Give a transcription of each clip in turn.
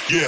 Yeah.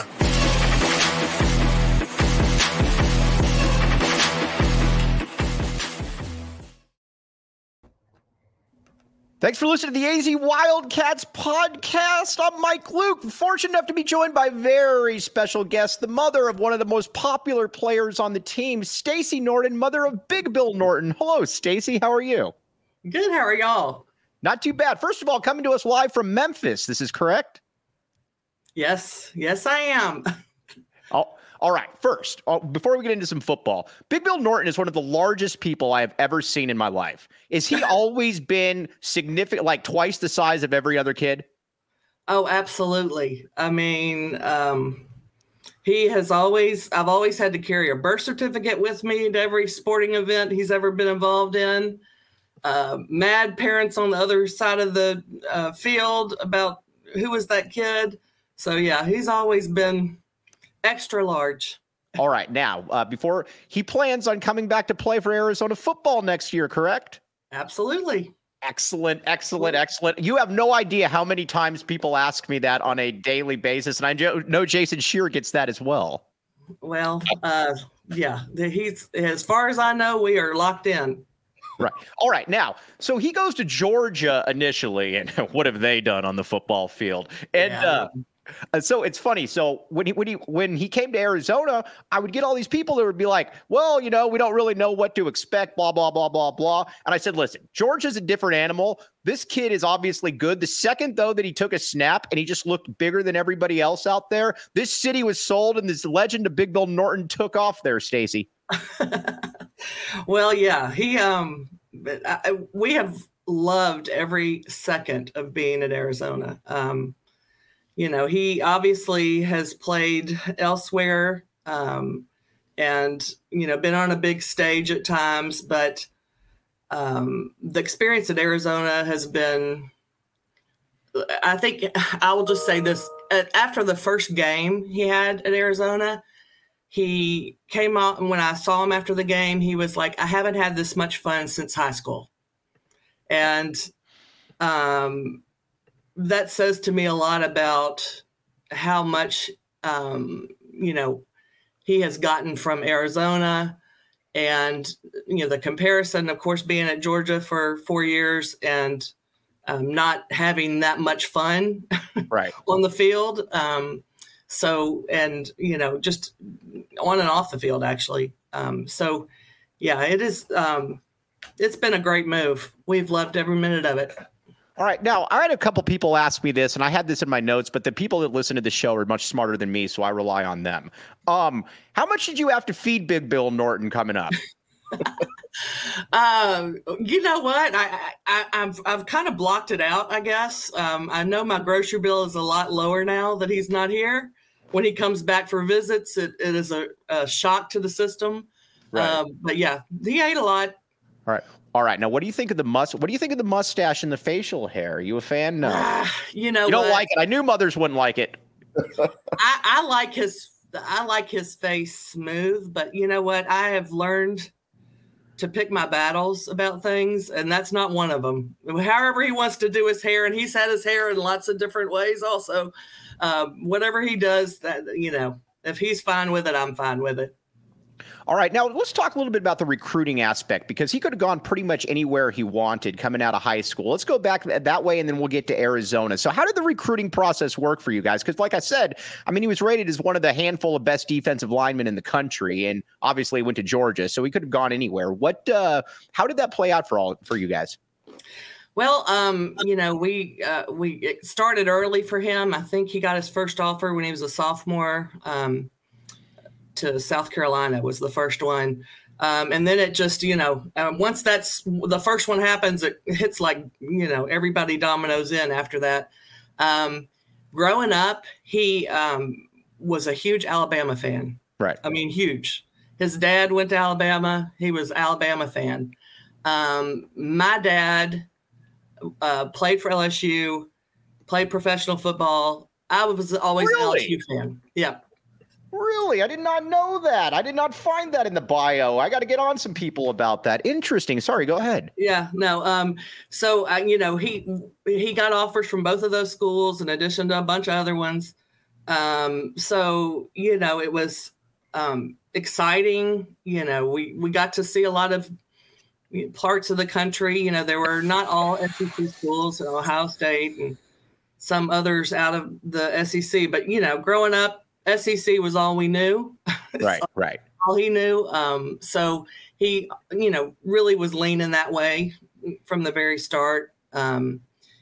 Thanks for listening to the AZ Wildcats podcast. I'm Mike Luke, fortunate enough to be joined by very special guest, the mother of one of the most popular players on the team, Stacey Norton, mother of Big Bill Norton. Hello, Stacey. How are you? Good. How are y'all? Not too bad. First of all, coming to us live from Memphis. This is correct? Yes. Yes, I am. All right. First, before we get into some football, Big Bill Norton is one of the largest people I have ever seen in my life. Is he always been significant, like twice the size of every other kid? Oh, absolutely. I mean, I've always had to carry a birth certificate with me to every sporting event he's ever been involved in. Mad parents on the other side of the field about who was that kid. So, yeah, he's always been extra large. All right. Now, before he plans on coming back to play for Arizona football next year, correct? Absolutely. Excellent. You have no idea how many times people ask me that on a daily basis. And I know Jason Shearer gets that as well. Well, yeah, he's, as far as I know, we are locked in. Right. All right. Now, so he goes to Georgia initially, and what have they done on the football field? And, so it's funny. So when he came to Arizona, I would get all these people that would be like, well, we don't really know what to expect, blah, blah, blah, blah, blah. And I said, listen, Georgia's a different animal. This kid is obviously good. The second, though, that he took a snap and he just looked bigger than everybody else out there, this city was sold and this legend of Big Bill Norton took off there, Stacey. Well, yeah, we have loved every second of being at Arizona. He obviously has played elsewhere and, been on a big stage at times, but the experience at Arizona has been, I think I will just say this, after the first game he had at Arizona, he came out, and when I saw him after the game, he was like, I haven't had this much fun since high school. And, that says to me a lot about how much, he has gotten from Arizona and, the comparison, of course, being at Georgia for 4 years and not having that much fun right on the field. Just on and off the field, actually. It is, it's been a great move. We've loved every minute of it. All right. Now, I had a couple people ask me this, and I had this in my notes, but the people that listen to the show are much smarter than me, so I rely on them. How much did you have to feed Big Bill Norton coming up? You know what? I've kind of blocked it out, I guess. I know my grocery bill is a lot lower now that he's not here. When he comes back for visits, it is a shock to the system. Right. But yeah, he ate a lot. All right. Now, what do you think of the mustache and the facial hair? Are you a fan? No. You don't like it. I knew mothers wouldn't like it. I like his face smooth, but you know what? I have learned to pick my battles about things, and that's not one of them. However he wants to do his hair, and he's had his hair in lots of different ways also. Whatever he does, that if he's fine with it, I'm fine with it. All right. Now, let's talk a little bit about the recruiting aspect, because he could have gone pretty much anywhere he wanted coming out of high school. Let's go back that way, and then we'll get to Arizona. So how did the recruiting process work for you guys? Because like I said, he was rated as one of the handful of best defensive linemen in the country, and obviously went to Georgia, so he could have gone anywhere. How did that play out for you guys? Well, we started early for him. I think he got his first offer when he was a sophomore. To South Carolina was the first one. And then it just, once that's the first one happens, it hits like, everybody dominoes in after that. Growing up, he was a huge Alabama fan. Right. Huge. His dad went to Alabama. He was an Alabama fan. My dad played for LSU, played professional football. I was always an LSU fan. Yeah. Really? I did not know that. I did not find that in the bio. I got to get on some people about that. Interesting. Sorry, go ahead. Yeah, no. He got offers from both of those schools in addition to a bunch of other ones. So, it was exciting. We got to see a lot of parts of the country. There were not all SEC schools, Ohio State and some others out of the SEC. But, growing up, SEC was all we knew. Right, right. All he knew. So he, really was leaning that way from the very start. And,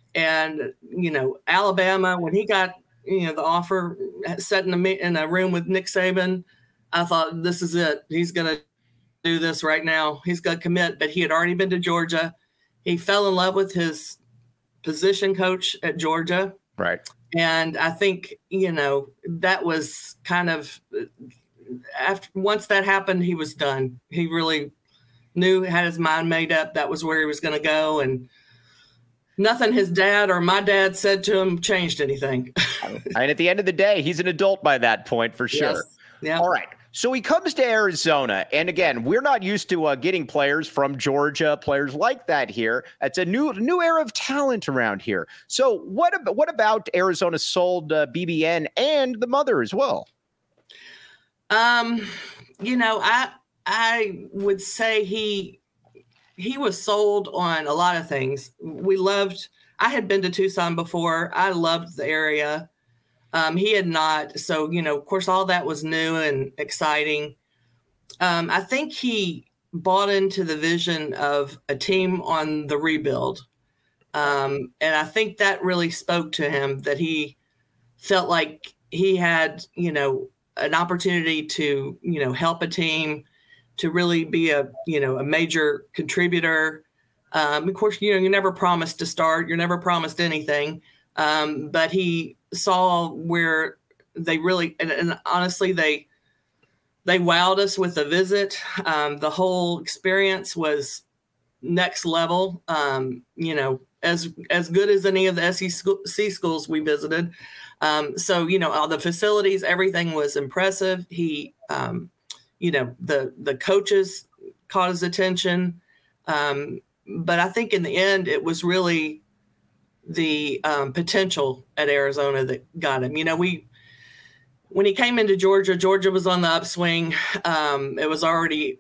Alabama, when he got, the offer, sat in a room with Nick Saban, I thought, this is it. He's going to do this right now. He's going to commit. But he had already been to Georgia. He fell in love with his position coach at Georgia. Right. And I think, that was kind of once that happened, he was done. He really had his mind made up. That was where he was going to go. And nothing his dad or my dad said to him changed anything. And at the end of the day, he's an adult by that point for sure. Yes. Yeah. All right. So he comes to Arizona. And again, we're not used to getting players from Georgia, players like that here. It's a new era of talent around here. So what about Arizona sold BBN and the mother as well? I would say he was sold on a lot of things. I had been to Tucson before. I loved the area. He had not. So, of course, all that was new and exciting. I think he bought into the vision of a team on the rebuild. And I think that really spoke to him, that he felt like he had, an opportunity to, help a team, to really be a major contributor. Of course, you're never promised to start. You're never promised anything. But he saw where they really, and honestly, they wowed us with the visit. The whole experience was next level. As good as any of the SEC schools we visited. So, all the facilities, everything was impressive. He, the coaches caught his attention. But I think in the end, it was really the potential at Arizona that got him. When he came into Georgia was on the upswing. It was already,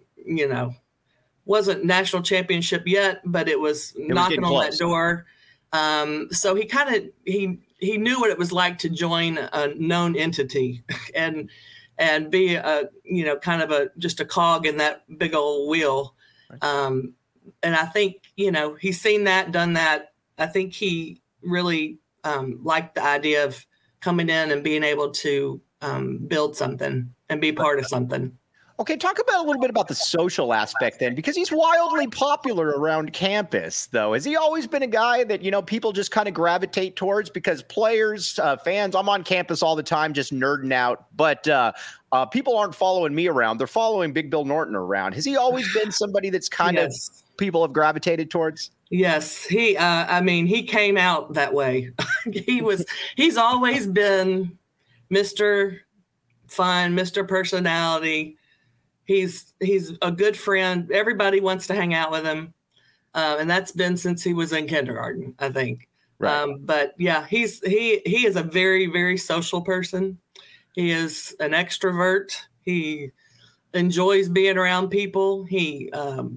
wasn't national championship yet, but it was knocking on that door. So he knew what it was like to join a known entity and be kind of just a cog in that big old wheel. And I think, he's seen that, done that. I think he really liked the idea of coming in and being able to build something and be part of something. Okay, talk about a little bit about the social aspect then, because he's wildly popular around campus, though. Has he always been a guy that, people just kind of gravitate towards? Because players, fans, I'm on campus all the time just nerding out, but people aren't following me around. They're following Big Bill Norton around. Has he always been somebody that's kind of people have gravitated towards? Yes, he came out that way. He's always been Mr. Fun, Mr. Personality. He's a good friend. Everybody wants to hang out with him. And that's been since he was in kindergarten, I think. Right. But yeah, he is a very, very social person. He is an extrovert. He enjoys being around people. He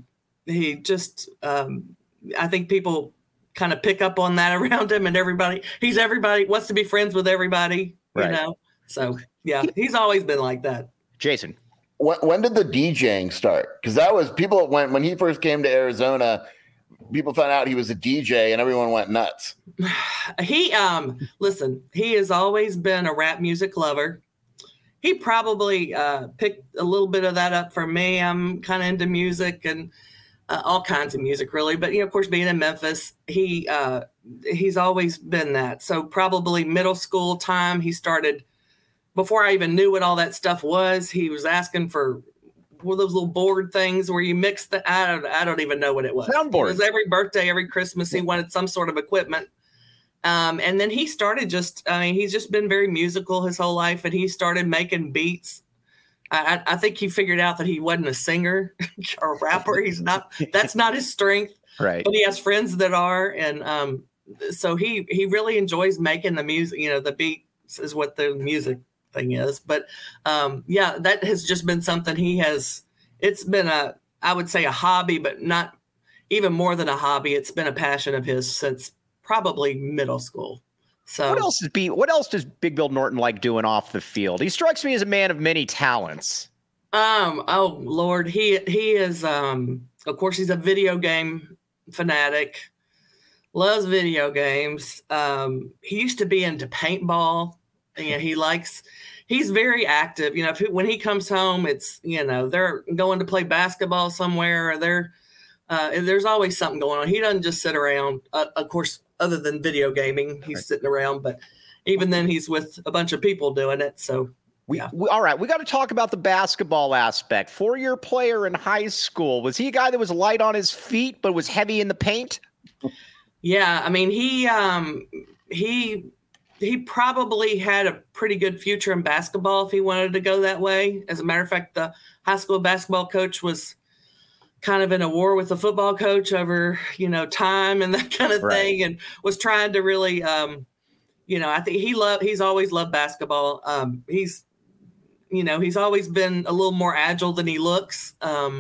just, I think people kind of pick up on that around him, and everybody wants to be friends with everybody, right. So yeah, he's always been like that. Jason. When did the DJing start? Because that was people when he first came to Arizona, people found out he was a DJ and everyone went nuts. He he has always been a rap music lover. He probably picked a little bit of that up for me. I'm kind of into music and all kinds of music, really. But of course, being in Memphis, he's always been that. So probably middle school time, he started. Before I even knew what all that stuff was, he was asking for one of those little board things where you mix the, I don't even know what it was. Soundboard. It was every birthday, every Christmas, he wanted some sort of equipment. And then he started he's just been very musical his whole life, and he started making beats. I think he figured out that he wasn't a singer or a rapper. That's not his strength. Right. But he has friends that are. And so he really enjoys making the music, the beat is what the music thing is. But yeah, that has just been something it's been I would say a hobby, but not even more than a hobby. It's been a passion of his since probably middle school. So what else does Big Bill Norton like doing off the field? He strikes me as a man of many talents. Oh Lord, he is of course he's a video game fanatic. Loves video games. He used to be into paintball. And he's very active. You know, when he comes home, it's, you know, they're going to play basketball somewhere, or there's always something going on. He doesn't just sit around, of course, other than video gaming, he's sitting around, but even then he's with a bunch of people doing it. So all right, we got to talk about the basketball aspect. 4-year player in high school. Was he a guy that was light on his feet, but was heavy in the paint? Yeah. I mean, he probably had a pretty good future in basketball if he wanted to go that way. As a matter of fact, the high school basketball coach was kind of in a war with the football coach over, you know, time and that kind of thing, and was trying to really, you know, I think he's always loved basketball. He's always been a little more agile than he looks.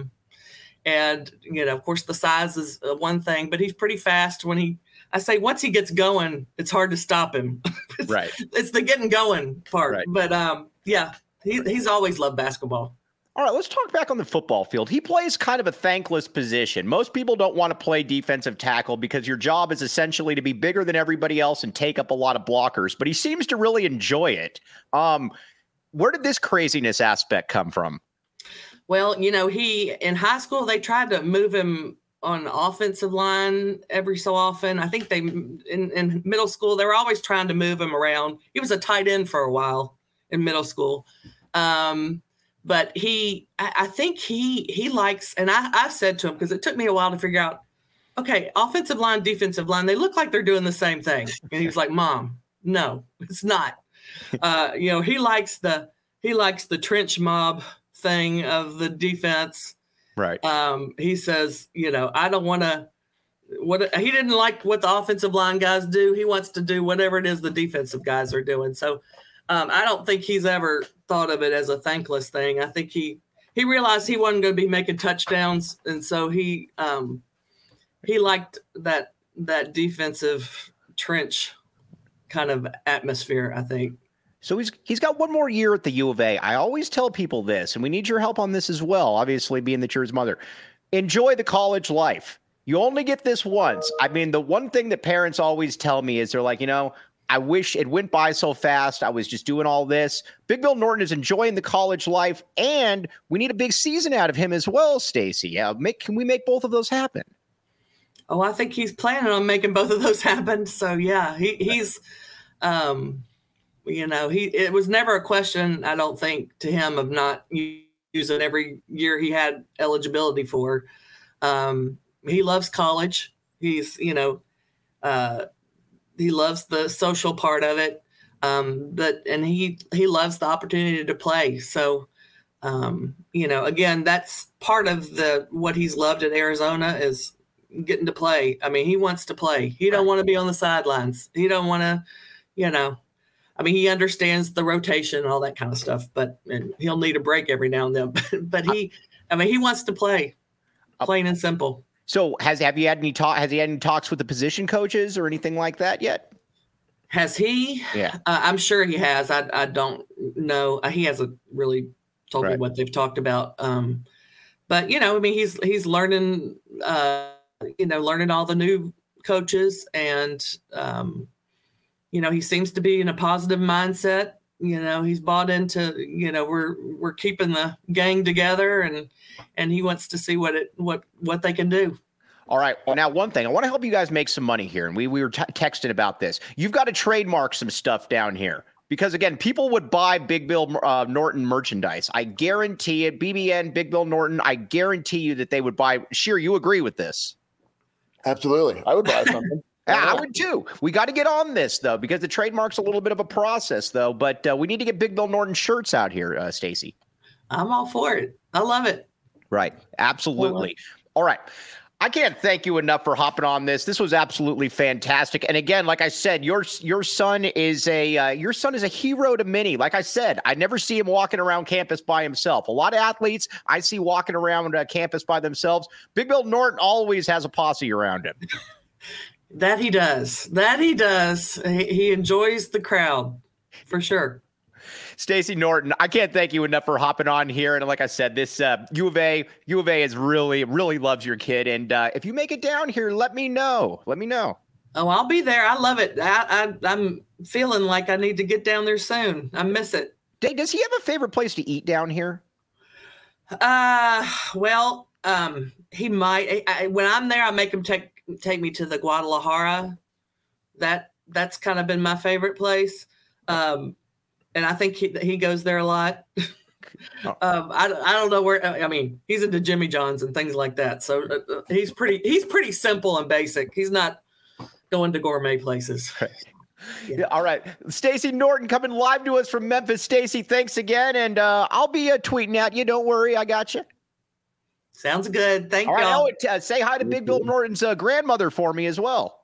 And, you know, of course, the size is one thing, but he's pretty fast once he gets going, it's hard to stop him. Right. It's the getting going part. Right. But, yeah, he's always loved basketball. All right, let's talk back on the football field. He plays kind of a thankless position. Most people don't want to play defensive tackle because your job is essentially to be bigger than everybody else and take up a lot of blockers, but he seems to really enjoy it. Where did this craziness aspect come from? Well, you know, in high school, they tried to move him on the offensive line every so often. I think in middle school, they were always trying to move him around. He was a tight end for a while in middle school. But I think he likes, and I said to him, because it took me a while to figure out, okay, offensive line, defensive line, they look like they're doing the same thing. And he was like, Mom, no, it's not. You know, he likes the trench mob thing of the defense. Right. He says, you know, I don't want to, he didn't like what the offensive line guys do. He wants to do whatever it is the defensive guys are doing. So I don't think he's ever thought of it as a thankless thing. I think he realized he wasn't going to be making touchdowns. And so he liked that defensive trench kind of atmosphere, I think. So he's got one more year at the U of A. I always tell people this, and we need your help on this as well, obviously being that you're his mother. Enjoy the college life. You only get this once. I mean, the one thing that parents always tell me is they're like, you know, I wish it went by so fast. I was just doing all this. Big Bill Norton is enjoying the college life, and we need a big season out of him as well, Stacey. Yeah, can we make both of those happen? Oh, I think he's planning on making both of those happen. So, yeah, he's you know, it was never a question, I don't think, to him of not using every year he had eligibility for. He loves college. He's, you know, he loves the social part of it. And he loves the opportunity to play. So, you know, again, that's part of what he's loved at Arizona is getting to play. I mean, he wants to play. He don't want to be on the sidelines. He don't want to, you know, I mean, he understands the rotation and all that kind of stuff, and he'll need a break every now and then. But he wants to play, plain and simple. So has he had any talks with the position coaches or anything like that yet? Has he? Yeah, I'm sure he has. I don't know. He hasn't really told me what they've talked about. But you know, I mean, he's learning. You know, learning all the new coaches and. You know, he seems to be in a positive mindset. You know, he's bought into, you know, we're keeping the gang together and he wants to see what they can do. All right. Well, now one thing, I want to help you guys make some money here. And we were texting about this. You've got to trademark some stuff down here because again, people would buy Big Bill Norton merchandise. I guarantee it. BBN, Big Bill Norton. I guarantee you that they would buy. Sheer, you agree with this? Absolutely. I would buy something. Yeah, I would too. We got to get on this though, because the trademark's a little bit of a process though, but we need to get Big Bill Norton shirts out here, Stacey. I'm all for it. I love it. Right. Absolutely. All right. I can't thank you enough for hopping on this. This was absolutely fantastic. And again, like I said, your son is a hero to many. Like I said, I never see him walking around campus by himself. A lot of athletes I see walking around campus by themselves. Big Bill Norton always has a posse around him. That he does. He enjoys the crowd for sure. Stacey Norton, I can't thank you enough for hopping on here. And like I said, this U of A is really loves your kid. And if you make it down here, let me know. Oh, I'll be there. I love it. I'm feeling like I need to get down there soon. I miss it. Does he have a favorite place to eat down here? Well, he might. When I'm there, I make him take me to the Guadalajara. That's kind of been my favorite place. And I think he goes there a lot. I don't know where. I mean, he's into Jimmy John's and things like that. So he's pretty simple and basic. He's not going to gourmet places. Yeah. All right, Stacey Norton coming live to us from Memphis. Stacey, thanks again, and I'll be tweeting at you. Don't worry, I got you. Sounds good. Thank you. All right, say hi to Big Bill Norton's grandmother for me as well.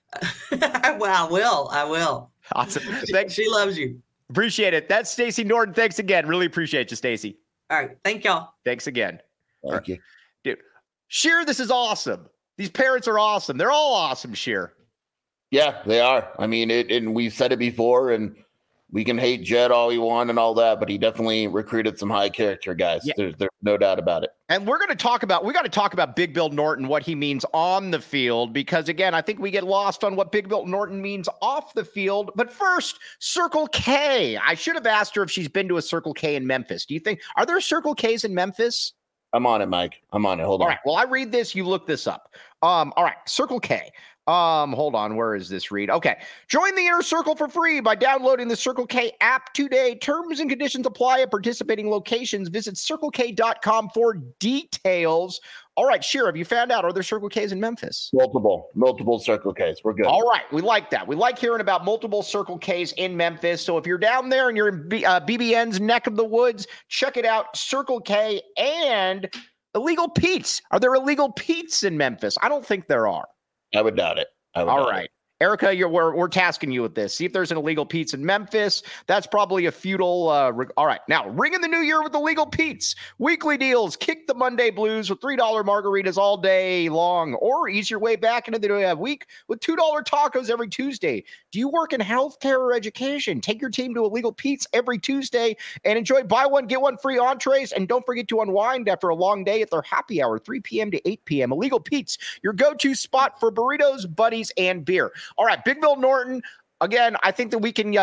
Well, I will. Awesome. She loves you. Appreciate it. That's Stacey Norton. Thanks again. Really appreciate you, Stacey. All right. Thank y'all. Thanks again. Thank you. Dude, Sheer, this is awesome. These parents are awesome. They're all awesome, Sheer. Yeah, they are. I mean, and we've said it before, and we can hate Jed all we want and all that, but he definitely recruited some high character guys. Yeah. There's no doubt about it. And we got to talk about Big Bill Norton, what he means on the field, because again, I think we get lost on what Big Bill Norton means off the field. But first, Circle K. I should have asked her if she's been to a Circle K in Memphis. Do you think, are there Circle Ks in Memphis? I'm on it, Mike. I'm on it. Hold on. All right. Well, I read this. You look this up. All right. Circle K. Hold on. Where is this read? Okay. Join the Inner Circle for free by downloading the Circle K app today. Terms and conditions apply at participating locations. Visit CircleK.com for details. All right, Sheer, have you found out, are there Circle Ks in Memphis? Multiple Circle Ks. We're good. All right. We like that. We like hearing about multiple Circle Ks in Memphis. So if you're down there and you're in BBN's neck of the woods, check it out. Circle K and Illegal Pete's. Are there Illegal Pete's in Memphis? I don't think there are. I would doubt it. All right. Erica, we're tasking you with this. See if there's an Illegal Pete's in Memphis. That's probably a futile. All right. Now, ring in the new year with Illegal Pete's. Weekly deals. Kick the Monday blues with $3 margaritas all day long, or ease your way back into the week with $2 tacos every Tuesday. Do you work in healthcare or education? Take your team to Illegal Pete's every Tuesday and enjoy buy one, get one free entrees. And don't forget to unwind after a long day at their happy hour, 3 p.m. to 8 p.m. Illegal Pete's, your go-to spot for burritos, buddies, and beer. All right, Big Bill Norton. Again, I think that we can.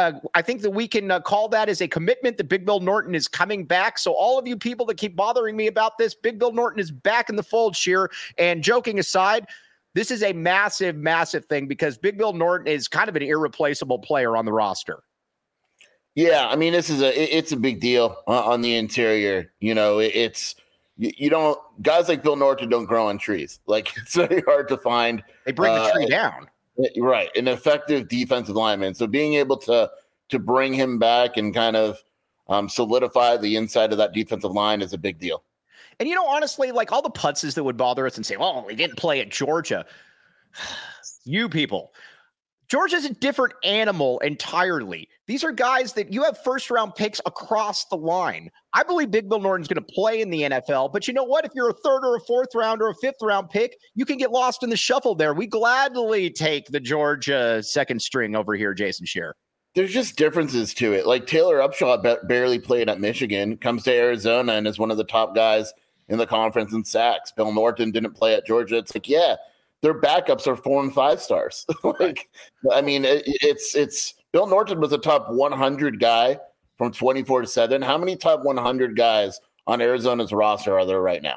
Call that as a commitment that Big Bill Norton is coming back. So all of you people that keep bothering me about this, Big Bill Norton is back in the fold, Sheer. And joking aside, this is a massive, massive thing because Big Bill Norton is kind of an irreplaceable player on the roster. Yeah, I mean, it's a big deal on the interior. You know, you don't, guys like Bill Norton don't grow on trees. Like, it's very hard to find. They bring the tree down. Right. An effective defensive lineman. So being able to bring him back and kind of solidify the inside of that defensive line is a big deal. And, you know, honestly, like all the putzes that would bother us and say, well, he didn't play at Georgia. You people. Georgia's a different animal entirely. These are guys that you have first-round picks across the line. I believe Big Bill Norton's going to play in the NFL, but you know what? If you're a third or a fourth round or a fifth-round pick, you can get lost in the shuffle there. We gladly take the Georgia second string over here, Jason Shearer. There's just differences to it. Like Taylor Upshaw barely played at Michigan, comes to Arizona and is one of the top guys in the conference in sacks. Bill Norton didn't play at Georgia. It's like, yeah, their backups are 4 and 5 stars. Like, I mean, it's Bill Norton was a top 100 guy from 24/7. How many top 100 guys on Arizona's roster are there right now?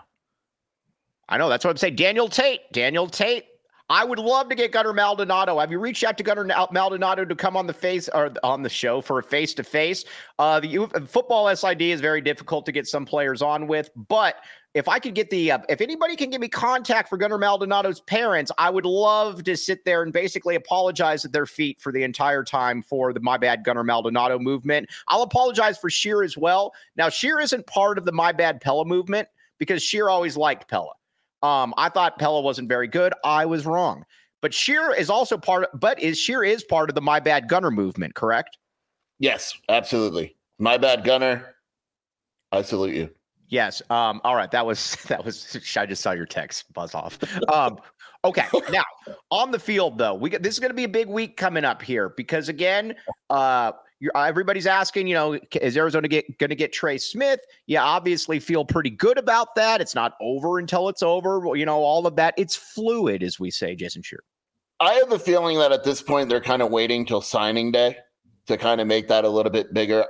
I know. That's what I'm saying. Daniel Tate. I would love to get Gunnar Maldonado. Have you reached out to Gunnar Maldonado to come on the show for a face-to-face? The football SID is very difficult to get some players on with, but if I could get if anybody can give me contact for Gunnar Maldonado's parents, I would love to sit there and basically apologize at their feet for the entire time for the My Bad Gunnar Maldonado movement. I'll apologize for Sheer as well. Now, Sheer isn't part of the My Bad Pella movement because Sheer always liked Pella. I thought Pella wasn't very good. I was wrong. But Scheer is also Scheer is part of the My Bad Gunner movement, correct? Yes, absolutely. My Bad Gunner. I salute you. Yes. All right. That was. I just saw your text buzz off. Okay. Now on the field, though, this is going to be a big week coming up here because again, everybody's asking, is Arizona going to get Trey Smith? Yeah, obviously feel pretty good about that. It's not over until it's over. All of that. It's fluid, as we say, Jason Scheer. I have a feeling that at this point they're kind of waiting till signing day to kind of make that a little bit bigger.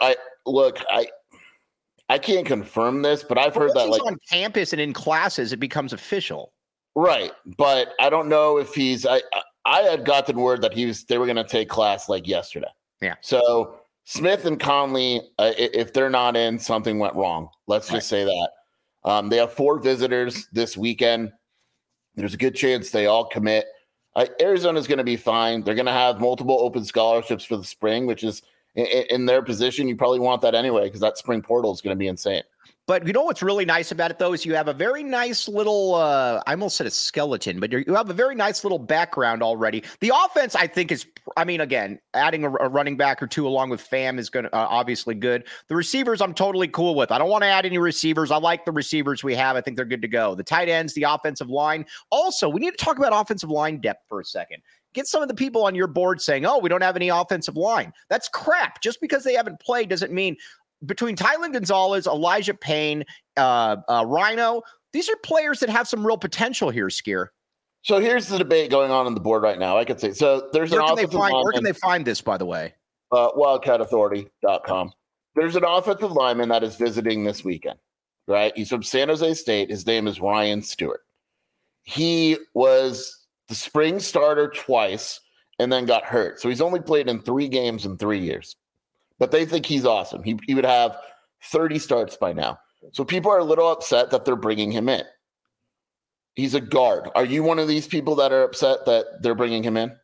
I can't confirm this, but I've heard that on campus and in classes, it becomes official. Right. But I don't know if I had gotten word that they were going to take class like yesterday. Yeah. So Smith and Conley, if they're not in, something went wrong. Let's just say that. They have 4 visitors this weekend. There's a good chance they all commit. Arizona's going to be fine. They're going to have multiple open scholarships for the spring, which is in their position. You probably want that anyway because that spring portal is going to be insane. But what's really nice about it, though, is you have a very nice little, I almost said a skeleton, but you have a very nice little background already. The offense, I think, again, adding a running back or 2 along with Pham is going to obviously good. The receivers, I'm totally cool with. I don't want to add any receivers. I like the receivers we have. I think they're good to go. The tight ends, the offensive line. Also, we need to talk about offensive line depth for a second. Get some of the people on your board saying, oh, we don't have any offensive line. That's crap. Just because they haven't played doesn't mean between Tylen Gonzalez, Elijah Payne, Rhino, these are players that have some real potential here, Skier. So here's the debate going on the board right now. I could say, so there's an offensive lineman. Where can they find this, by the way? WildcatAuthority.com. There's an offensive lineman that is visiting this weekend, right? He's from San Jose State. His name is Ryan Stewart. He was the spring starter twice and then got hurt. So he's only played in 3 games in 3 years. But they think he's awesome. He would have 30 starts by now. So people are a little upset that they're bringing him in. He's a guard. Are you one of these people that are upset that they're bringing him in?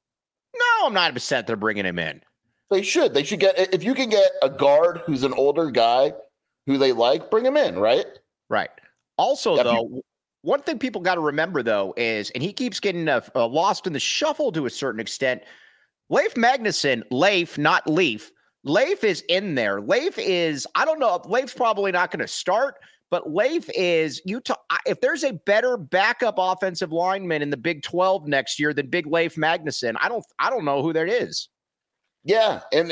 No, I'm not upset they're bringing him in. They should. They should get, if you can get a guard who's an older guy who they like, bring him in, right? Right. Also, though, one thing people got to remember, though, is, and he keeps getting lost in the shuffle to a certain extent, Leif Magnuson, Leif, not Leaf, Leif is in there. Leif is, I don't know, Leif's probably not going to start, but Leif is, if there's a better backup offensive lineman in the Big 12 next year than Big Leif Magnuson, I don't know who that is. Yeah, and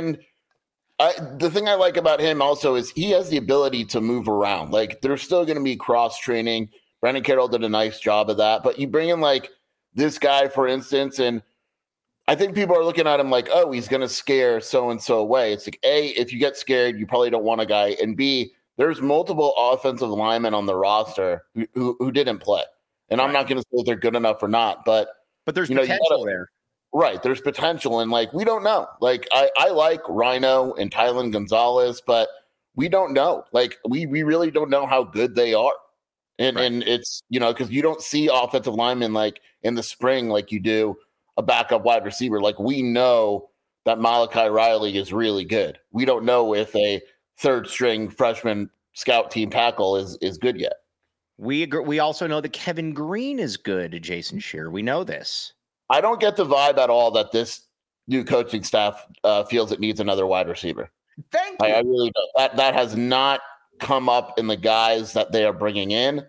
the thing I like about him also is he has the ability to move around. Like, there's still going to be cross-training. Brandon Carroll did a nice job of that, but you bring in, like, this guy, for instance, and I think people are looking at him like, oh, he's going to scare so-and-so away. It's like, A, if you get scared, you probably don't want a guy. And B, there's multiple offensive linemen on the roster who didn't play. And I'm not going to say if they're good enough or not, but there's potential there. Right. There's potential. And, like, we don't know. Like, I like Rhino and Tylen Gonzalez, but we don't know. Like, we really don't know how good they are. And it's, because you don't see offensive linemen, like, in the spring like you do a backup wide receiver. Like, we know that Malachi Riley is really good. We don't know if a 3rd string freshman scout team tackle is good yet. We agree. We also know that Kevin Green is good, Jason Scheer. We know this. I don't get the vibe at all that this new coaching staff feels it needs another wide receiver. Thank you. I really don't. That has not come up in the guys that they are bringing in.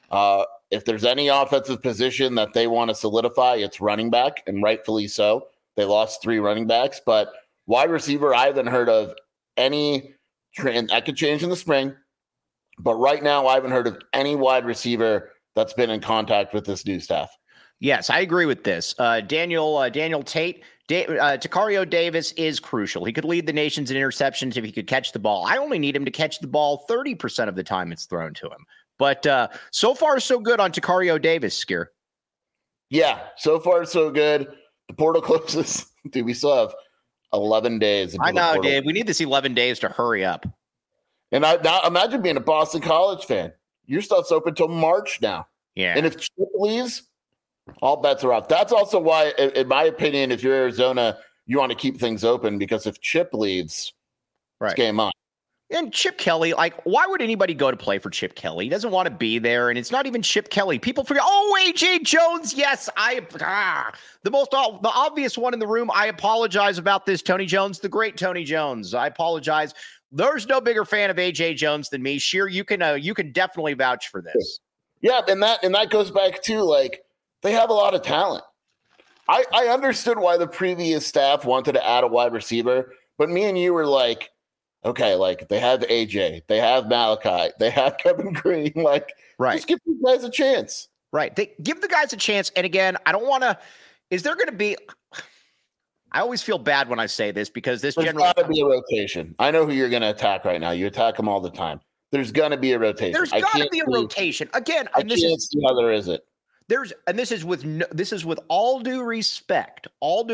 If there's any offensive position that they want to solidify, it's running back, and rightfully so. They lost 3 running backs, but wide receiver, I haven't heard of any trend. That could change in the spring, but right now I haven't heard of any wide receiver that's been in contact with this new staff. Yes, I agree with this. Daniel Tate, Tacario Davis is crucial. He could lead the nations in interceptions if he could catch the ball. I only need him to catch the ball 30% of the time it's thrown to him. But so far, so good on Tacario Davis, Skier. Yeah, so far, so good. The portal closes. Dude, we still have 11 days. I know, Dave. We need this 11 days to hurry up. And now imagine being a Boston College fan. Your stuff's open till March now. Yeah. And if Chip leaves, all bets are off. That's also why, in my opinion, if you're Arizona, you want to keep things open, because if Chip leaves, it's game on. And Chip Kelly, like, why would anybody go to play for Chip Kelly? He doesn't want to be there, and it's not even Chip Kelly. People forget, A.J. Jones, yes, the obvious one in the room, I apologize about this, Tony Jones, the great Tony Jones. I apologize. There's no bigger fan of A.J. Jones than me. Sheer, you can definitely vouch for this. Yeah, and that goes back to, like, they have a lot of talent. I understood why the previous staff wanted to add a wide receiver, but me and you were like, okay, like they have AJ, they have Malachi, they have Kevin Green. Like, right. Just give these guys a chance. Right. They give the guys a chance. And again, I don't want to. Is there going to be? I always feel bad when I say this because there's got to be a rotation. I know who you're going to attack right now. You attack them all the time. There's going to be a rotation. There's got to be a rotation again. I can't see how there isn't. This is with all due respect.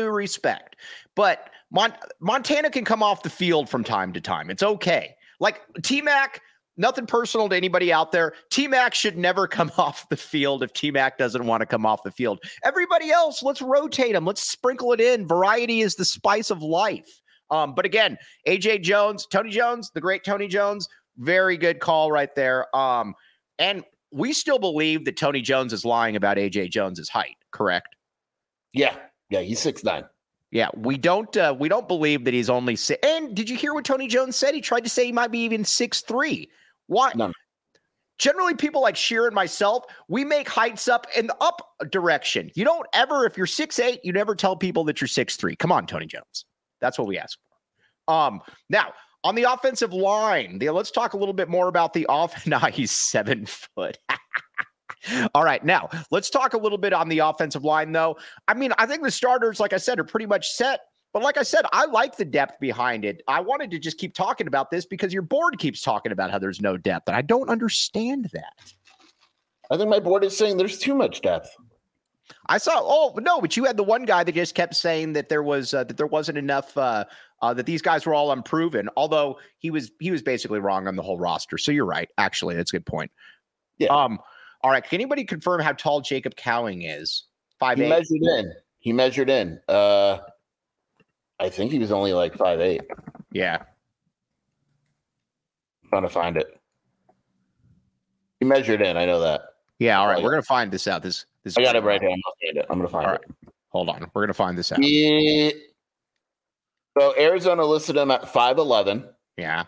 But Montana can come off the field from time to time. It's okay. Like T-Mac, nothing personal to anybody out there. T-Mac should never come off the field if T-Mac doesn't want to come off the field. Everybody else, let's rotate them. Let's sprinkle it in. Variety is the spice of life. But again, A.J. Jones, Tony Jones, the great Tony Jones, very good call right there. And we still believe that Tony Jones is lying about A.J. Jones's height, correct? Yeah, he's 6'9". Yeah, we don't believe that he's only six. And did you hear what Tony Jones said? He tried to say he might be even 6'3". Why? No. Generally, people like Sheer and myself, we make heights up in the up direction. You don't ever, if you're 6'8", you never tell people that you're 6'3". Come on, Tony Jones. That's what we ask for. Now, on the offensive line, let's talk a little bit more about the offense. Now he's 7 foot. All right, now let's talk a little bit on the offensive line, though. I mean, I think the starters, like I said, are pretty much set. But like I said, I like the depth behind it. I wanted to just keep talking about this because your board keeps talking about how there's no depth, and I don't understand that. I think my board is saying there's too much depth. I saw. But you had the one guy that just kept saying that there wasn't enough. That these guys were all unproven. Although he was basically wrong on the whole roster. So you're right. Actually, that's a good point. Yeah. All right. Can anybody confirm how tall Jacob Cowing is? 5'8". He measured in. I think he was only like 5'8". Yeah. I'm trying to find it. He measured in. I know that. Yeah. All right. We're gonna find this out. This. I got it right here. I'm gonna find it. Hold on. We're gonna find this out. So Arizona listed him at 5'11". Yeah.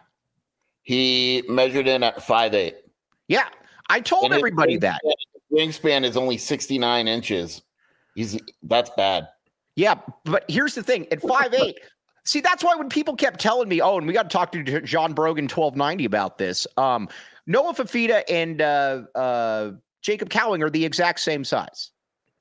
He measured in at 5'8". Yeah. I told everybody that. Wingspan is only 69 inches. That's bad. Yeah, but here's the thing. At 5'8", see, that's why when people kept telling me, and we got to talk to John Brogan 1290 about this. Noah Fifita and Jacob Cowing are the exact same size.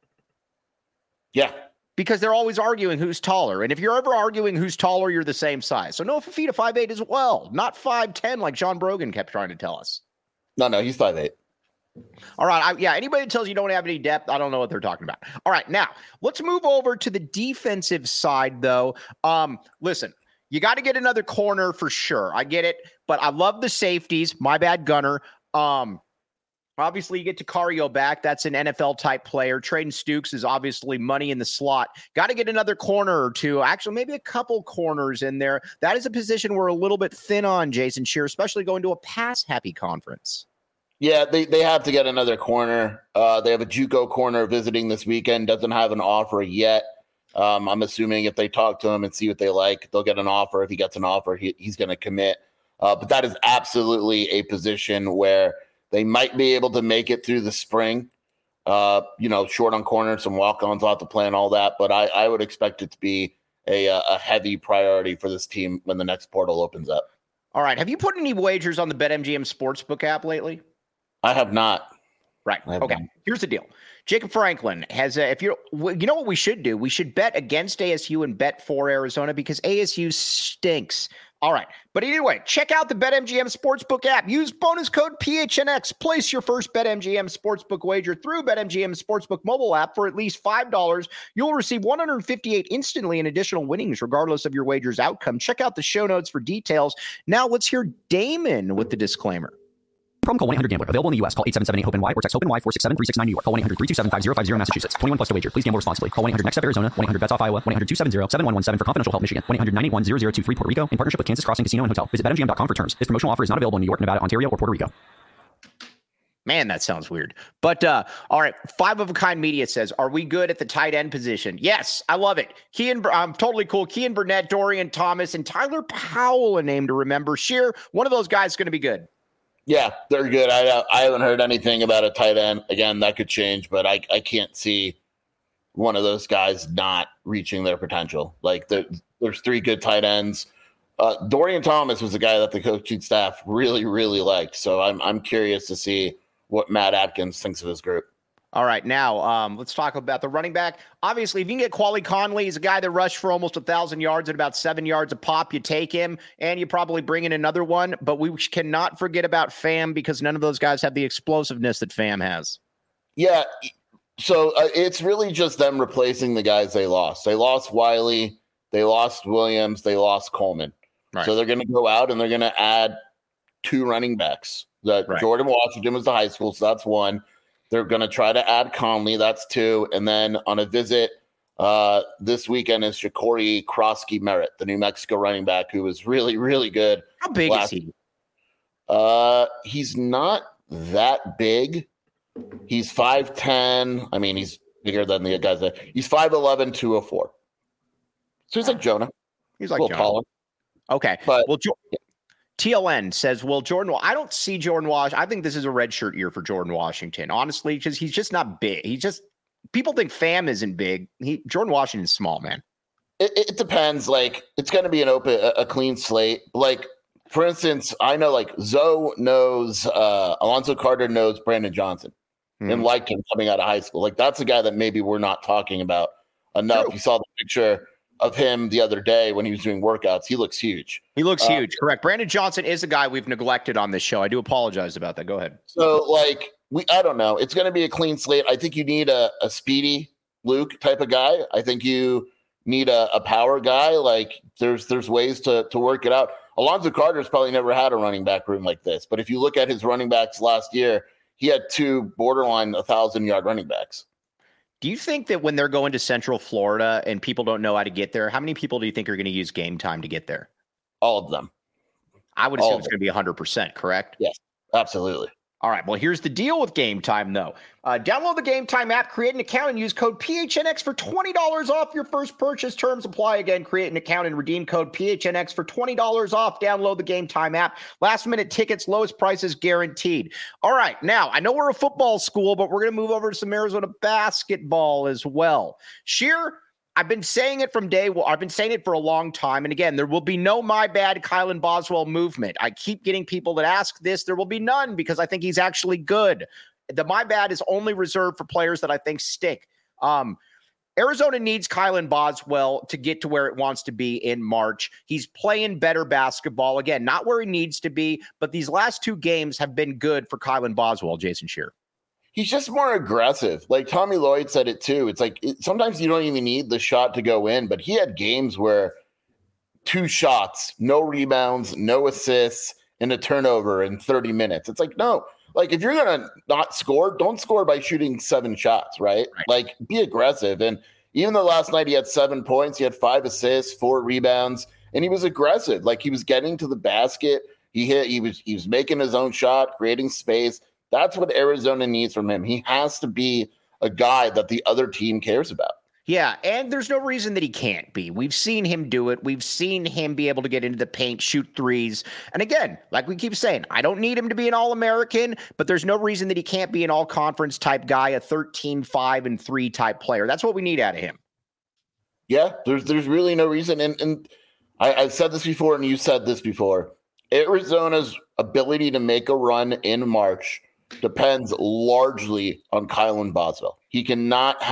Yeah. Because they're always arguing who's taller. And if you're ever arguing who's taller, you're the same size. So Noah Fifita 5'8" as well, not 5'10" like John Brogan kept trying to tell us. No, he's 5'8". All right. Anybody that tells you don't have any depth, I don't know what they're talking about. All right. Now, let's move over to the defensive side, though. Listen, you got to get another corner for sure. I get it. But I love the safeties. My bad, Gunner. Obviously, you get Takario back. That's an NFL-type player. Traden Stukes is obviously money in the slot. Got to get another corner or two. Actually, maybe a couple corners in there. That is a position we're a little bit thin on, Jason Shear, especially going to a pass-happy conference. Yeah, they have to get another corner. They have a JUCO corner visiting this weekend. Doesn't have an offer yet. I'm assuming if they talk to him and see what they like, they'll get an offer. If he gets an offer, he's going to commit. But that is absolutely a position where they might be able to make it through the spring. Short on corners, some walk-ons off the plan, all that. But I would expect it to be a heavy priority for this team when the next portal opens up. All right. Have you put any wagers on the BetMGM Sportsbook app lately? I have not. Right. Okay. Here's the deal. Jacob Franklin has you know what we should do? We should bet against ASU and bet for Arizona because ASU stinks. All right. But anyway, check out the BetMGM Sportsbook app. Use bonus code PHNX. Place your first BetMGM Sportsbook wager through BetMGM Sportsbook mobile app for at least $5. You'll receive $158 instantly in additional winnings, regardless of your wager's outcome. Check out the show notes for details. Now let's hear Damon with the disclaimer. Problem, call 1-800-GAMBLER. Available in the U.S. Call 877-8-HOPE-NY or text HOPE-NY 467-369 New York. Call 1-800-327-5050 Massachusetts. 21 plus to wager. Please gamble responsibly. Call 1-800-NEXT-STEP Arizona. 1-800-BETS-OFF Iowa. 1-800-270-7117 for confidential help Michigan. 1-800-981-0023 Puerto Rico in partnership with Kansas Crossing Casino and Hotel. Visit BetMGM.com for terms. This promotional offer is not available in New York, Nevada, Ontario, or Puerto Rico. Man, that sounds weird. But all right, Five of a Kind Media says, are we good at the tight end position? Yes, I love it. I'm totally cool. Kean Burnett, Dorian Thomas, and Tyler Powell, a name to remember. Sheer, one of those guys is going to be good. Yeah, they're good. I haven't heard anything about a tight end. Again, that could change, but I can't see one of those guys not reaching their potential. Like there's three good tight ends. Dorian Thomas was a guy that the coaching staff really, really liked. So I'm curious to see what Matt Atkins thinks of his group. All right, now let's talk about the running back. Obviously, if you can get Quali Conley, he's a guy that rushed for almost 1,000 yards at about 7 yards a pop. You take him, and you probably bring in another one. But we cannot forget about Fam because none of those guys have the explosiveness that Fam has. Yeah, so it's really just them replacing the guys they lost. They lost Wiley, they lost Williams, they lost Coleman. Right. So they're going to go out and they're going to add two running backs. Right. Jordan Washington was the high school, so that's one. They're going to try to add Conley. That's two. And then on a visit this weekend is Ja'Cory Krosky Merritt, the New Mexico running back, who was really, really good. How big is he? He's not that big. He's 5'10". I mean, he's bigger than the guys. He's 5'11", 204. So he's like Jonah. He's like a little Jonah. taller. Okay. But TLN says, well, I don't see Jordan Washington. I think this is a redshirt year for Jordan Washington, honestly, because he's just not big. People think Fam isn't big. Jordan Washington's small, man. It depends. Like, it's going to be a clean slate. Like, for instance, I know like Zoe knows, Alonzo Carter knows Brandon Johnson and liked him coming out of high school. Like, that's a guy that maybe we're not talking about enough. True. You saw the picture of him the other day when he was doing workouts. He looks huge. He looks huge. Correct. Brandon Johnson is a guy we've neglected on this show. I do apologize about that. Go ahead. So like I don't know. It's going to be a clean slate. I think you need a speedy Luke type of guy. I think you need a power guy. Like there's ways to work it out. Alonzo Carter's probably never had a running back room like this. But if you look at his running backs last year, he had two borderline 1,000-yard running backs. Do you think that when they're going to Central Florida and people don't know how to get there, how many people do you think are going to use Game Time to get there? All of them. I would assume it's going to be 100%, correct? Yes, absolutely. All right. Well, here's the deal with Game Time, though. Download the Game Time app, create an account, and use code PHNX for $20 off your first purchase. Terms apply. Again, create an account and redeem code PHNX for $20 off. Download the Game Time app. Last-minute tickets, lowest prices guaranteed. All right. Now, I know we're a football school, but we're going to move over to some Arizona basketball as well. Sheer, I've been saying it from day one. I've been saying it for a long time. And again, there will be no my bad Kylan Boswell movement. I keep getting people that ask this. There will be none because I think he's actually good. The my bad is only reserved for players that I think stick. Arizona needs Kylan Boswell to get to where it wants to be in March. He's playing better basketball. Again, not where he needs to be, but these last two games have been good for Kylan Boswell, Jason Shearer. He's just more aggressive. Like Tommy Lloyd said it too. It's like sometimes you don't even need the shot to go in, but he had games where 2 shots, no rebounds, no assists, and a turnover in 30 minutes. It's like, no, like if you're going to not score, don't score by shooting 7 shots, right? Like be aggressive. And even though last night he had 7 points, he had 5 assists, 4 rebounds, and he was aggressive. Like he was getting to the basket. He was making his own shot, creating space. That's what Arizona needs from him. He has to be a guy that the other team cares about. Yeah, and there's no reason that he can't be. We've seen him do it. We've seen him be able to get into the paint, shoot threes. And again, like we keep saying, I don't need him to be an All-American, but there's no reason that he can't be an all-conference type guy, a 13-5-3 type player. That's what we need out of him. Yeah, there's really no reason. And I've said this before, and you said this before. Arizona's ability to make a run in March depends largely on Kylan Boswell. He can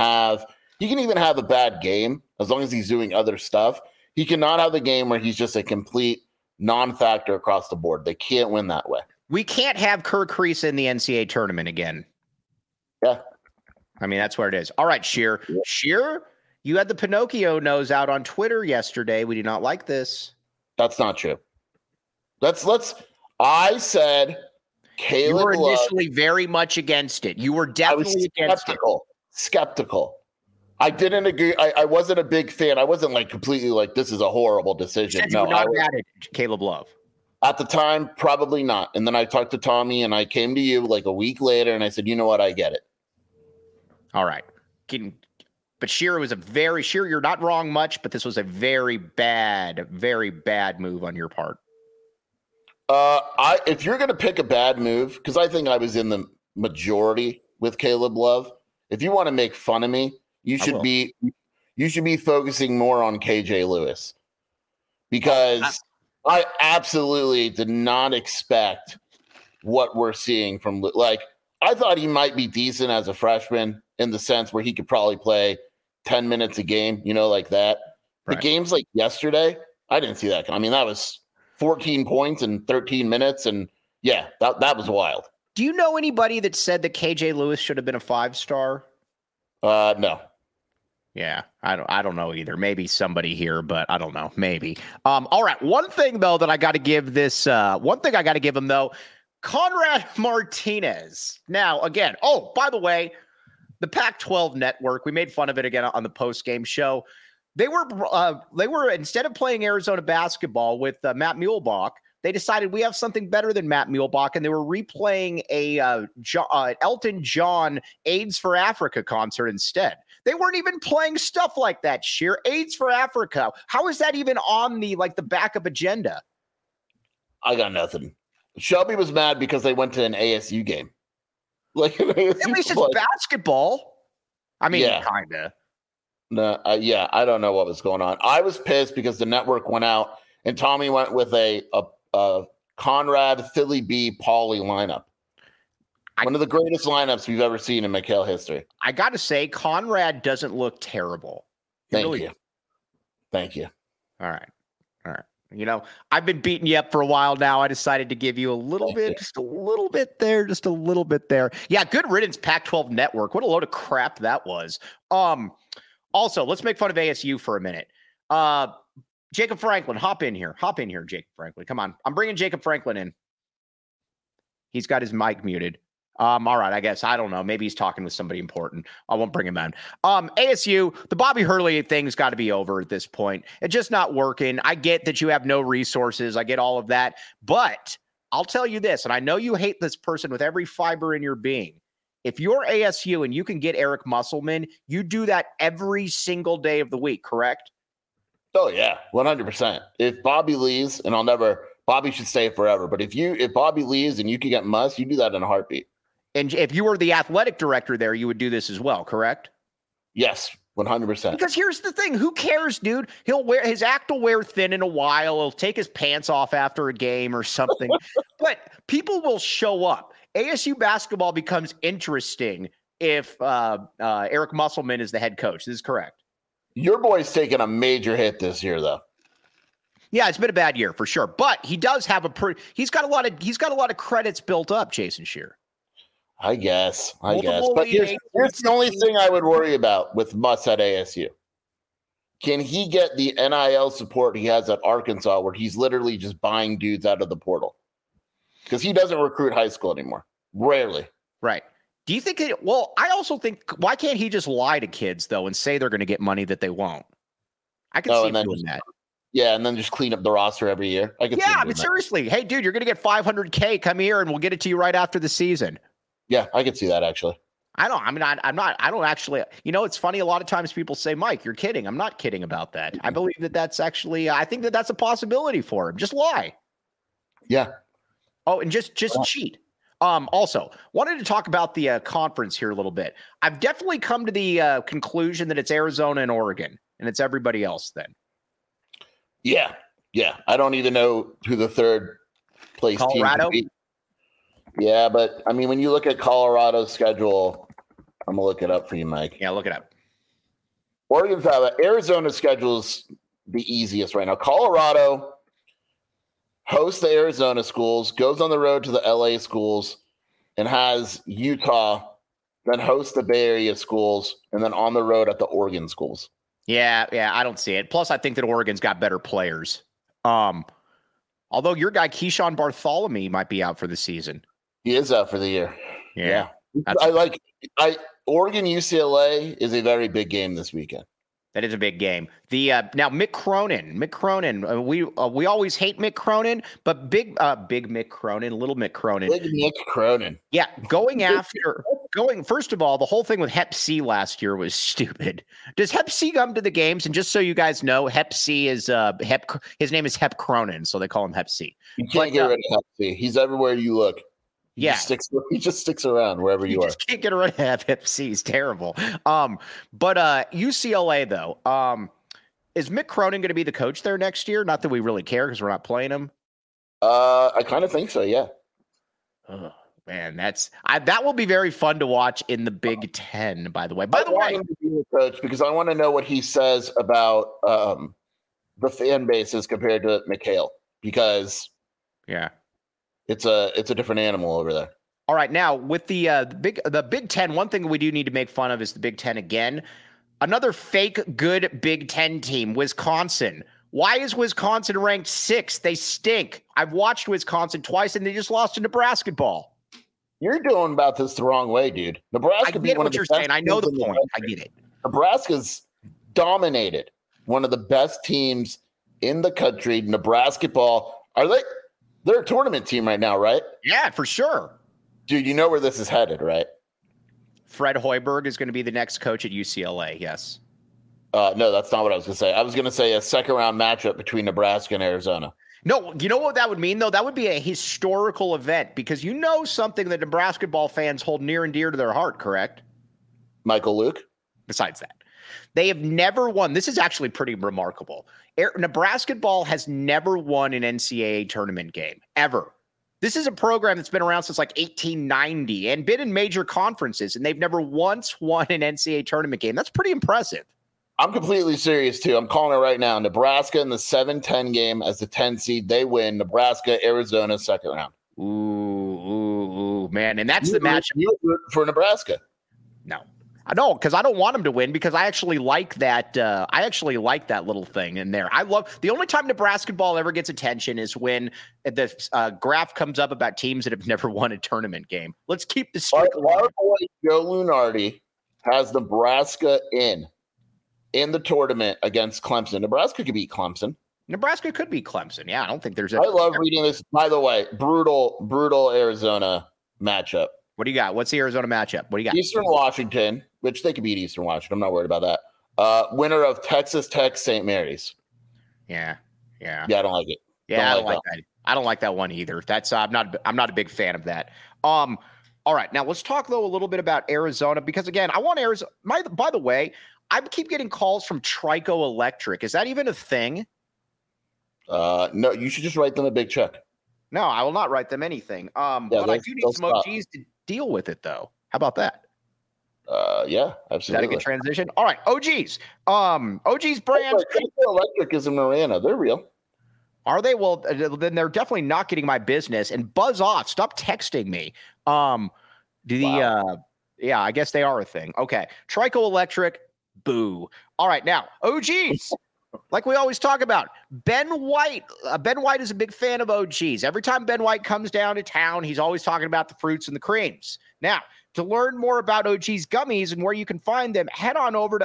even have a bad game as long as he's doing other stuff. He cannot have the game where he's just a complete non-factor across the board. They can't win that way. We can't have Kirk Kriisa in the NCAA tournament again. Yeah. I mean, that's where it is. All right, Sheer. Yeah. Sheer, you had the Pinocchio nose out on Twitter yesterday. We do not like this. That's not true. I said You Caleb were Love, initially very much against it. You were I was definitely against it. skeptical. I didn't agree. I wasn't a big fan. I wasn't like completely like, this is a horrible You decision. said you No, were not mad at Caleb Love. at the time, probably not. And then I talked to Tommy and I came to you like a week later and I said, you know what? I get it. All right. But Shearer was Shearer, you're not wrong much, but this was a very bad move on your part. If you're going to pick a bad move, because I think I was in the majority with Caleb Love, if you want to make fun of me, you should be focusing more on KJ Lewis, because I absolutely did not expect what we're seeing from, like, I thought he might be decent as a freshman in the sense where he could probably play 10 minutes a game, like that. Right. The games like yesterday, I didn't see that. I mean, that was 14 points in 13 minutes. And yeah, that was wild. Do you know anybody that said that KJ Lewis should have been a 5-star? No. Yeah, I don't know either. Maybe somebody here, but I don't know. Maybe. All right. One thing though that I got to give him though, Conrad Martinez. Now, again, by the way, the Pac-12 network, we made fun of it again on the post-game show. They were instead of playing Arizona basketball with Matt Muehlebach, they decided we have something better than Matt Muehlebach, and they were replaying a Elton John AIDS for Africa concert instead. They weren't even playing stuff like that, Sheer. AIDS for Africa. How is that even on the backup agenda? I got nothing. Shelby was mad because they went to an ASU game. At least it's basketball. I mean, yeah. Kind of. No, I don't know what was going on. I was pissed because the network went out and Tommy went with a Conrad, Philly B, Pauly lineup. One of the greatest lineups we've ever seen in McHale history. I got to say, Conrad doesn't look terrible. Thank you. All right. I've been beating you up for a while now. I decided to give you a little bit, just a little bit there. Yeah, good riddance, Pac-12 network. What a load of crap that was. Also, let's make fun of ASU for a minute. Jacob Franklin, hop in here, Jacob Franklin. Come on. I'm bringing Jacob Franklin in. He's got his mic muted. All right, I guess. I don't know. Maybe he's talking with somebody important. I won't bring him in. ASU, the Bobby Hurley thing's got to be over at this point. It's just not working. I get that you have no resources. I get all of that. But I'll tell you this, and I know you hate this person with every fiber in your being. If you're ASU and you can get Eric Musselman, you do that every single day of the week, correct? Oh, yeah, 100%. If Bobby leaves, and Bobby should stay forever. But if Bobby leaves and you can get Muss, you do that in a heartbeat. And if you were the athletic director there, you would do this as well, correct? Yes, 100%. Because here's the thing. Who cares, dude? His act will wear thin in a while. He'll take his pants off after a game or something. But people will show up. ASU basketball becomes interesting if Eric Musselman is the head coach. This is correct. Your boy's taken a major hit this year, though. Yeah, it's been a bad year for sure. But he does have he's got a lot of credits built up, Jason Shearer. I guess. But here's the only thing I would worry about with Muss at ASU. Can he get the NIL support he has at Arkansas, where he's literally just buying dudes out of the portal? Because he doesn't recruit high school anymore. Rarely. Right. Do you think I also think, why can't he just lie to kids, though, and say they're going to get money that they won't? I can see him doing that. Yeah, and then just clean up the roster every year. Seriously. Hey, dude, you're going to get $500K. Come here, and we'll get it to you right after the season. Yeah, I could see that, actually. I don't actually, it's funny. A lot of times people say, Mike, you're kidding. I'm not kidding about that. I believe that's actually, I think that's a possibility for him. Just lie. Yeah. Oh, and just cheat. Also, wanted to talk about the conference here a little bit. I've definitely come to the conclusion that it's Arizona and Oregon, and it's everybody else then. Yeah. I don't even know who the third place Colorado? team could be. Yeah, but I mean, when you look at Colorado's schedule, I'm gonna look it up for you, Mike. Yeah, look it up. Oregon's Arizona's schedule is the easiest right now. Colorado hosts the Arizona schools, goes on the road to the LA schools, and has Utah, then hosts the Bay Area schools, and then on the road at the Oregon schools. Yeah, I don't see it. Plus, I think that Oregon's got better players. Although your guy Keyshawn Bartholomew might be out for the season. He is out for the year. Yeah. Oregon UCLA is a very big game this weekend. That is a big game. The now Mick Cronin. We always hate Mick Cronin, but big Mick Cronin, little Mick Cronin. Big Mick Cronin. Yeah, first of all, the whole thing with Hep C last year was stupid. Does Hep C come to the games? And just so you guys know, Hep C is his name is Hep Cronin, so they call him Hep C. You can't get rid of Hep C. He's everywhere you look. He just sticks around wherever you are. Just can't get rid of Hep C. He's terrible. But UCLA though, is Mick Cronin going to be the coach there next year? Not that we really care because we're not playing him. I kind of think so. Yeah. Oh man, that will be very fun to watch in the Big Ten. By the way, I want him to be the coach because I want to know what he says about the fan bases compared to McHale because it's a different animal over there. All right, now with the Big Ten, one thing we do need to make fun of is the Big Ten again. Another fake good Big Ten team, Wisconsin. Why is Wisconsin ranked 6th? They stink. I've watched Wisconsin twice, and they just lost to Nebraska ball. You're doing about this the wrong way, dude. Nebraska. I get what you're saying. I know the point. I get it. Nebraska's dominated one of the best teams in the country. Nebraska ball. They're a tournament team right now, right? Yeah, for sure. Dude, you know where this is headed, right? Fred Hoiberg is going to be the next coach at UCLA, yes. No, that's not what I was going to say. I was going to say a second-round matchup between Nebraska and Arizona. No, you know what that would mean, though? That would be a historical event because you know something that Nebraska ball fans hold near and dear to their heart, correct? Michael Luke? Besides that. They have never won. This is actually pretty remarkable. Nebraska ball has never won an NCAA tournament game, ever. This is a program that's been around since like 1890 and been in major conferences, and they've never once won an NCAA tournament game. That's pretty impressive. I'm completely serious, too. I'm calling it right now. Nebraska in the 7-10 game as the 10 seed. They win. Nebraska, Arizona, second round. Ooh, man. And that's the match. You root for Nebraska. No. I don't, because I don't want them to win because I actually like that. I actually like that little thing in there. I love the only time Nebraska ball ever gets attention is when the graph comes up about teams that have never won a tournament game. Let's keep the streak alive. Our boy Joe Lunardi has Nebraska in the tournament against Clemson. Nebraska could beat Clemson. Nebraska could beat Clemson. Yeah, I don't think there's. I love reading this. By the way, brutal Arizona matchup. What do you got? What's the Arizona matchup? What do you got? Eastern Washington, which they could beat Eastern Washington. I'm not worried about that. Winner of Texas Tech, St. Mary's. Yeah. I don't like it. Yeah, I don't like that. I don't like that one either. That's I'm not a big fan of that. All right, now let's talk though a little bit about Arizona because again, I want Arizona. By the way, I keep getting calls from Trico Electric. Is that even a thing? No, you should just write them a big check. No, I will not write them anything. But I do need some OGs to deal with it, though. How about that? Yeah, absolutely. Is that a good transition? All right, OGs. OGs brand. Electric is in Marana. They're real. Are they? Well, then they're definitely not getting my business. And buzz off. Stop texting me. Wow. Yeah, I guess they are a thing. Okay. Trico Electric. Boo. All right, now OGs. Like we always talk about, Ben White. Ben White is a big fan of OGs. Every time Ben White comes down to town, he's always talking about the fruits and the creams. Now, to learn more about OGs gummies and where you can find them, head on over to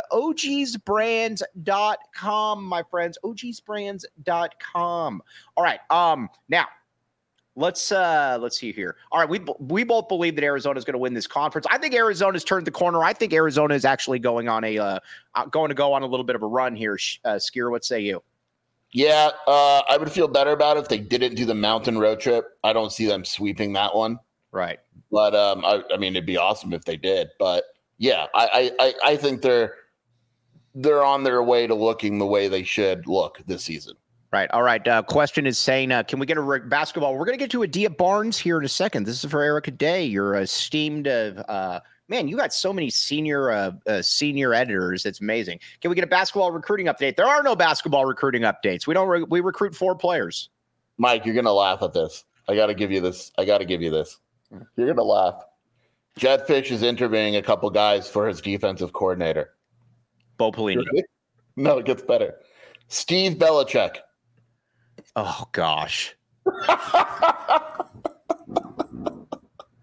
ogsbrands.com, my friends. ogsbrands.com. All right. Now, let's see here. All right, we both believe that Arizona is going to win this conference. I think Arizona's turned the corner. I think Arizona is actually going to go on a little bit of a run here. Skier, what say you? Yeah, I would feel better about it if they didn't do the mountain road trip. I don't see them sweeping that one. Right. But I mean, it'd be awesome if they did. But yeah, I think they're on their way to looking the way they should look this season. Right. All right. Question is saying, can we get a basketball? We're going to get to Adia Barnes here in a second. This is for Erica Day. You're esteemed. Man, you got so many senior editors. It's amazing. Can we get a basketball recruiting update? There are no basketball recruiting updates. We recruit 4 players. Mike, you're going to laugh at this. I got to give you this. You're going to laugh. Jed Fish is interviewing a couple guys for his defensive coordinator. Bo Pelini. No, it gets better. Steve Belichick. Oh, gosh.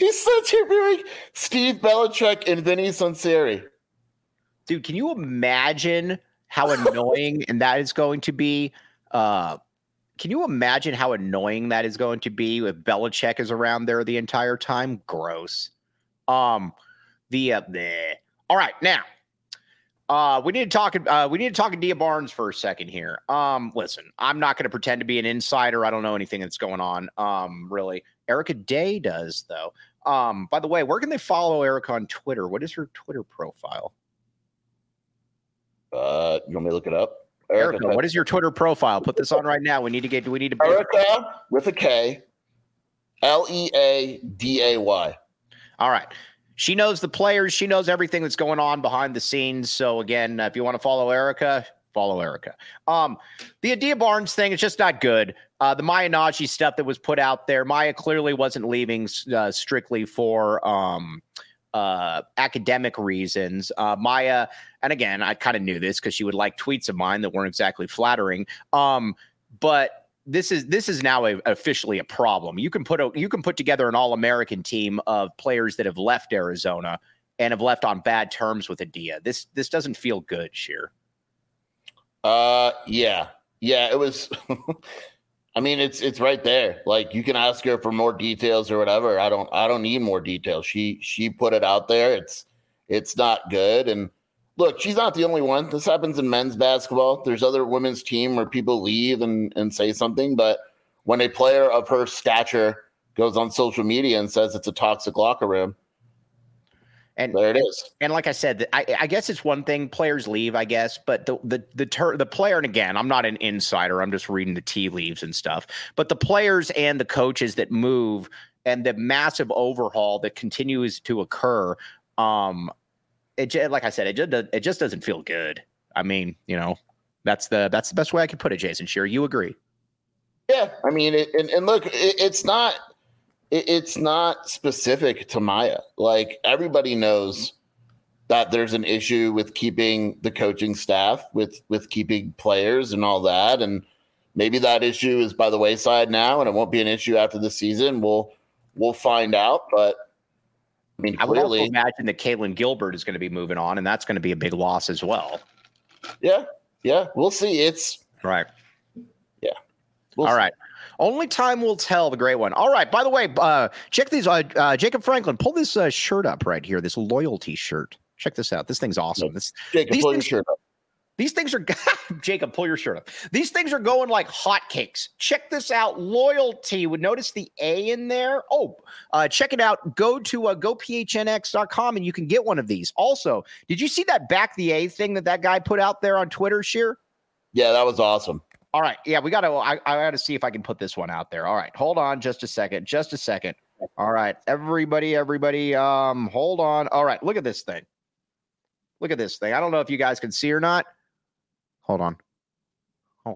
He's such a very Steve Belichick and Vinny Sunseri. Dude, can you imagine how annoying and that is going to be? Can you imagine how annoying that is going to be if Belichick is around there the entire time? Gross. All right, now we need to talk Adia Barnes for a second here. Listen, I'm not going to pretend to be an insider. I don't know anything that's going on. Really, Erica Day does though. By the way, where can they follow Erica on Twitter? What is her Twitter profile? You want me to look it up? Erica, what is your Twitter profile? Put this on right now. We need to Erica with a K, Leaday. All right. She knows the players. She knows everything that's going on behind the scenes. So again, if you want to follow Erica, follow Erica. The Adia Barnes thing is just not good. The Maya Najee stuff that was put out there, Maya clearly wasn't leaving strictly for academic reasons. Maya, and again, I kind of knew this because she would like tweets of mine that weren't exactly flattering. But this is now officially a problem. You can put together an All-American team of players that have left Arizona and have left on bad terms with Adia. This doesn't feel good, Sheer. Yeah, it was. I mean, it's right there. Like, you can ask her for more details or whatever. I don't need more details. She put it out there. It's not good. And look, she's not the only one. This happens in men's basketball. There's other women's team where people leave and say something. But when a player of her stature goes on social media and says it's a toxic locker room, and there it is. And like I said, I guess it's one thing players leave, I guess, but the player, and again, I'm not an insider. I'm just reading the tea leaves and stuff. But the players and the coaches that move and the massive overhaul that continues to occur, like I said, it just doesn't feel good. I mean, that's the best way I could put it, Jason Shearer. You agree? Yeah, I mean, and look, it's not specific to Maya. Like, everybody knows that there's an issue with keeping the coaching staff, with keeping players and all that. And maybe that issue is by the wayside now, and it won't be an issue after the season. We'll find out. But I mean, I would also imagine that Caitlin Gilbert is going to be moving on, and that's going to be a big loss as well. Yeah, we'll see. It's right. Yeah. All right. Only time will tell, the great one. All right. By the way, check these. Jacob Franklin, pull this shirt up right here, this loyalty shirt. Check this out. This thing's awesome. Jacob, pull your shirt up. These things are Jacob, pull your shirt up. These things are going like hotcakes. Check this out. Loyalty. Would notice the A in there. Oh, check it out. Go to gophnx.com and you can get one of these. Also, did you see that back the A thing that guy put out there on Twitter, Sheer? Yeah, that was awesome. All right. Yeah, I got to see if I can put this one out there. All right. Hold on just a second. All right. Everybody, hold on. All right. Look at this thing. I don't know if you guys can see or not. Hold on. Oh.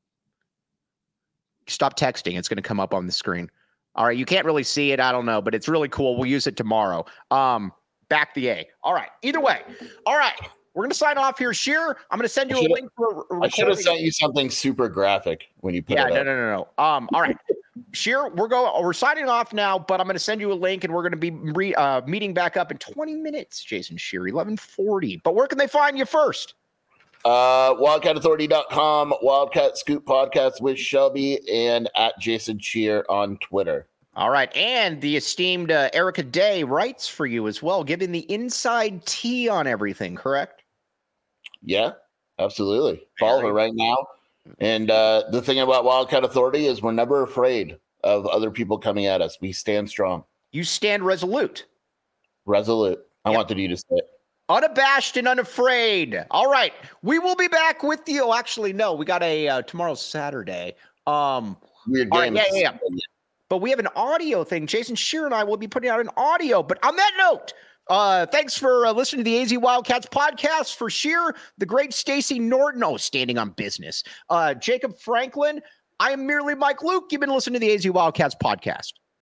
Stop texting. It's going to come up on the screen. All right. You can't really see it. I don't know, but it's really cool. We'll use it tomorrow. Back the A. All right. Either way. All right. We're going to sign off here. Shearer, I'm going to send you a link for a I should have sent you something super graphic when you put it up. No. All right. Shearer, we're signing off now, but I'm going to send you a link, and we're going to be meeting back up in 20 minutes, Jason Shearer, 11:40. But where can they find you first? WildcatAuthority.com, Wildcat Scoop Podcast with Shelby, and at Jason Shearer on Twitter. All right. And the esteemed Erica Day writes for you as well, giving the inside tea on everything, correct? Yeah, absolutely. Follow her right now. And the thing about Wildcat Authority is we're never afraid of other people coming at us. We stand strong. You stand resolute. Resolute. I wanted you to say it. Unabashed and unafraid. All right. We will be back with you. Oh, actually, no. We got tomorrow's Saturday. Weird game. Right, yeah. But we have an audio thing. Jason Shearer and I will be putting out an audio. But on that note, thanks for listening to the AZ Wildcats podcast. For Shearer, the great Stacey Norton. Oh, standing on business. Jacob Franklin. I am merely Mike Luke. You've been listening to the AZ Wildcats podcast.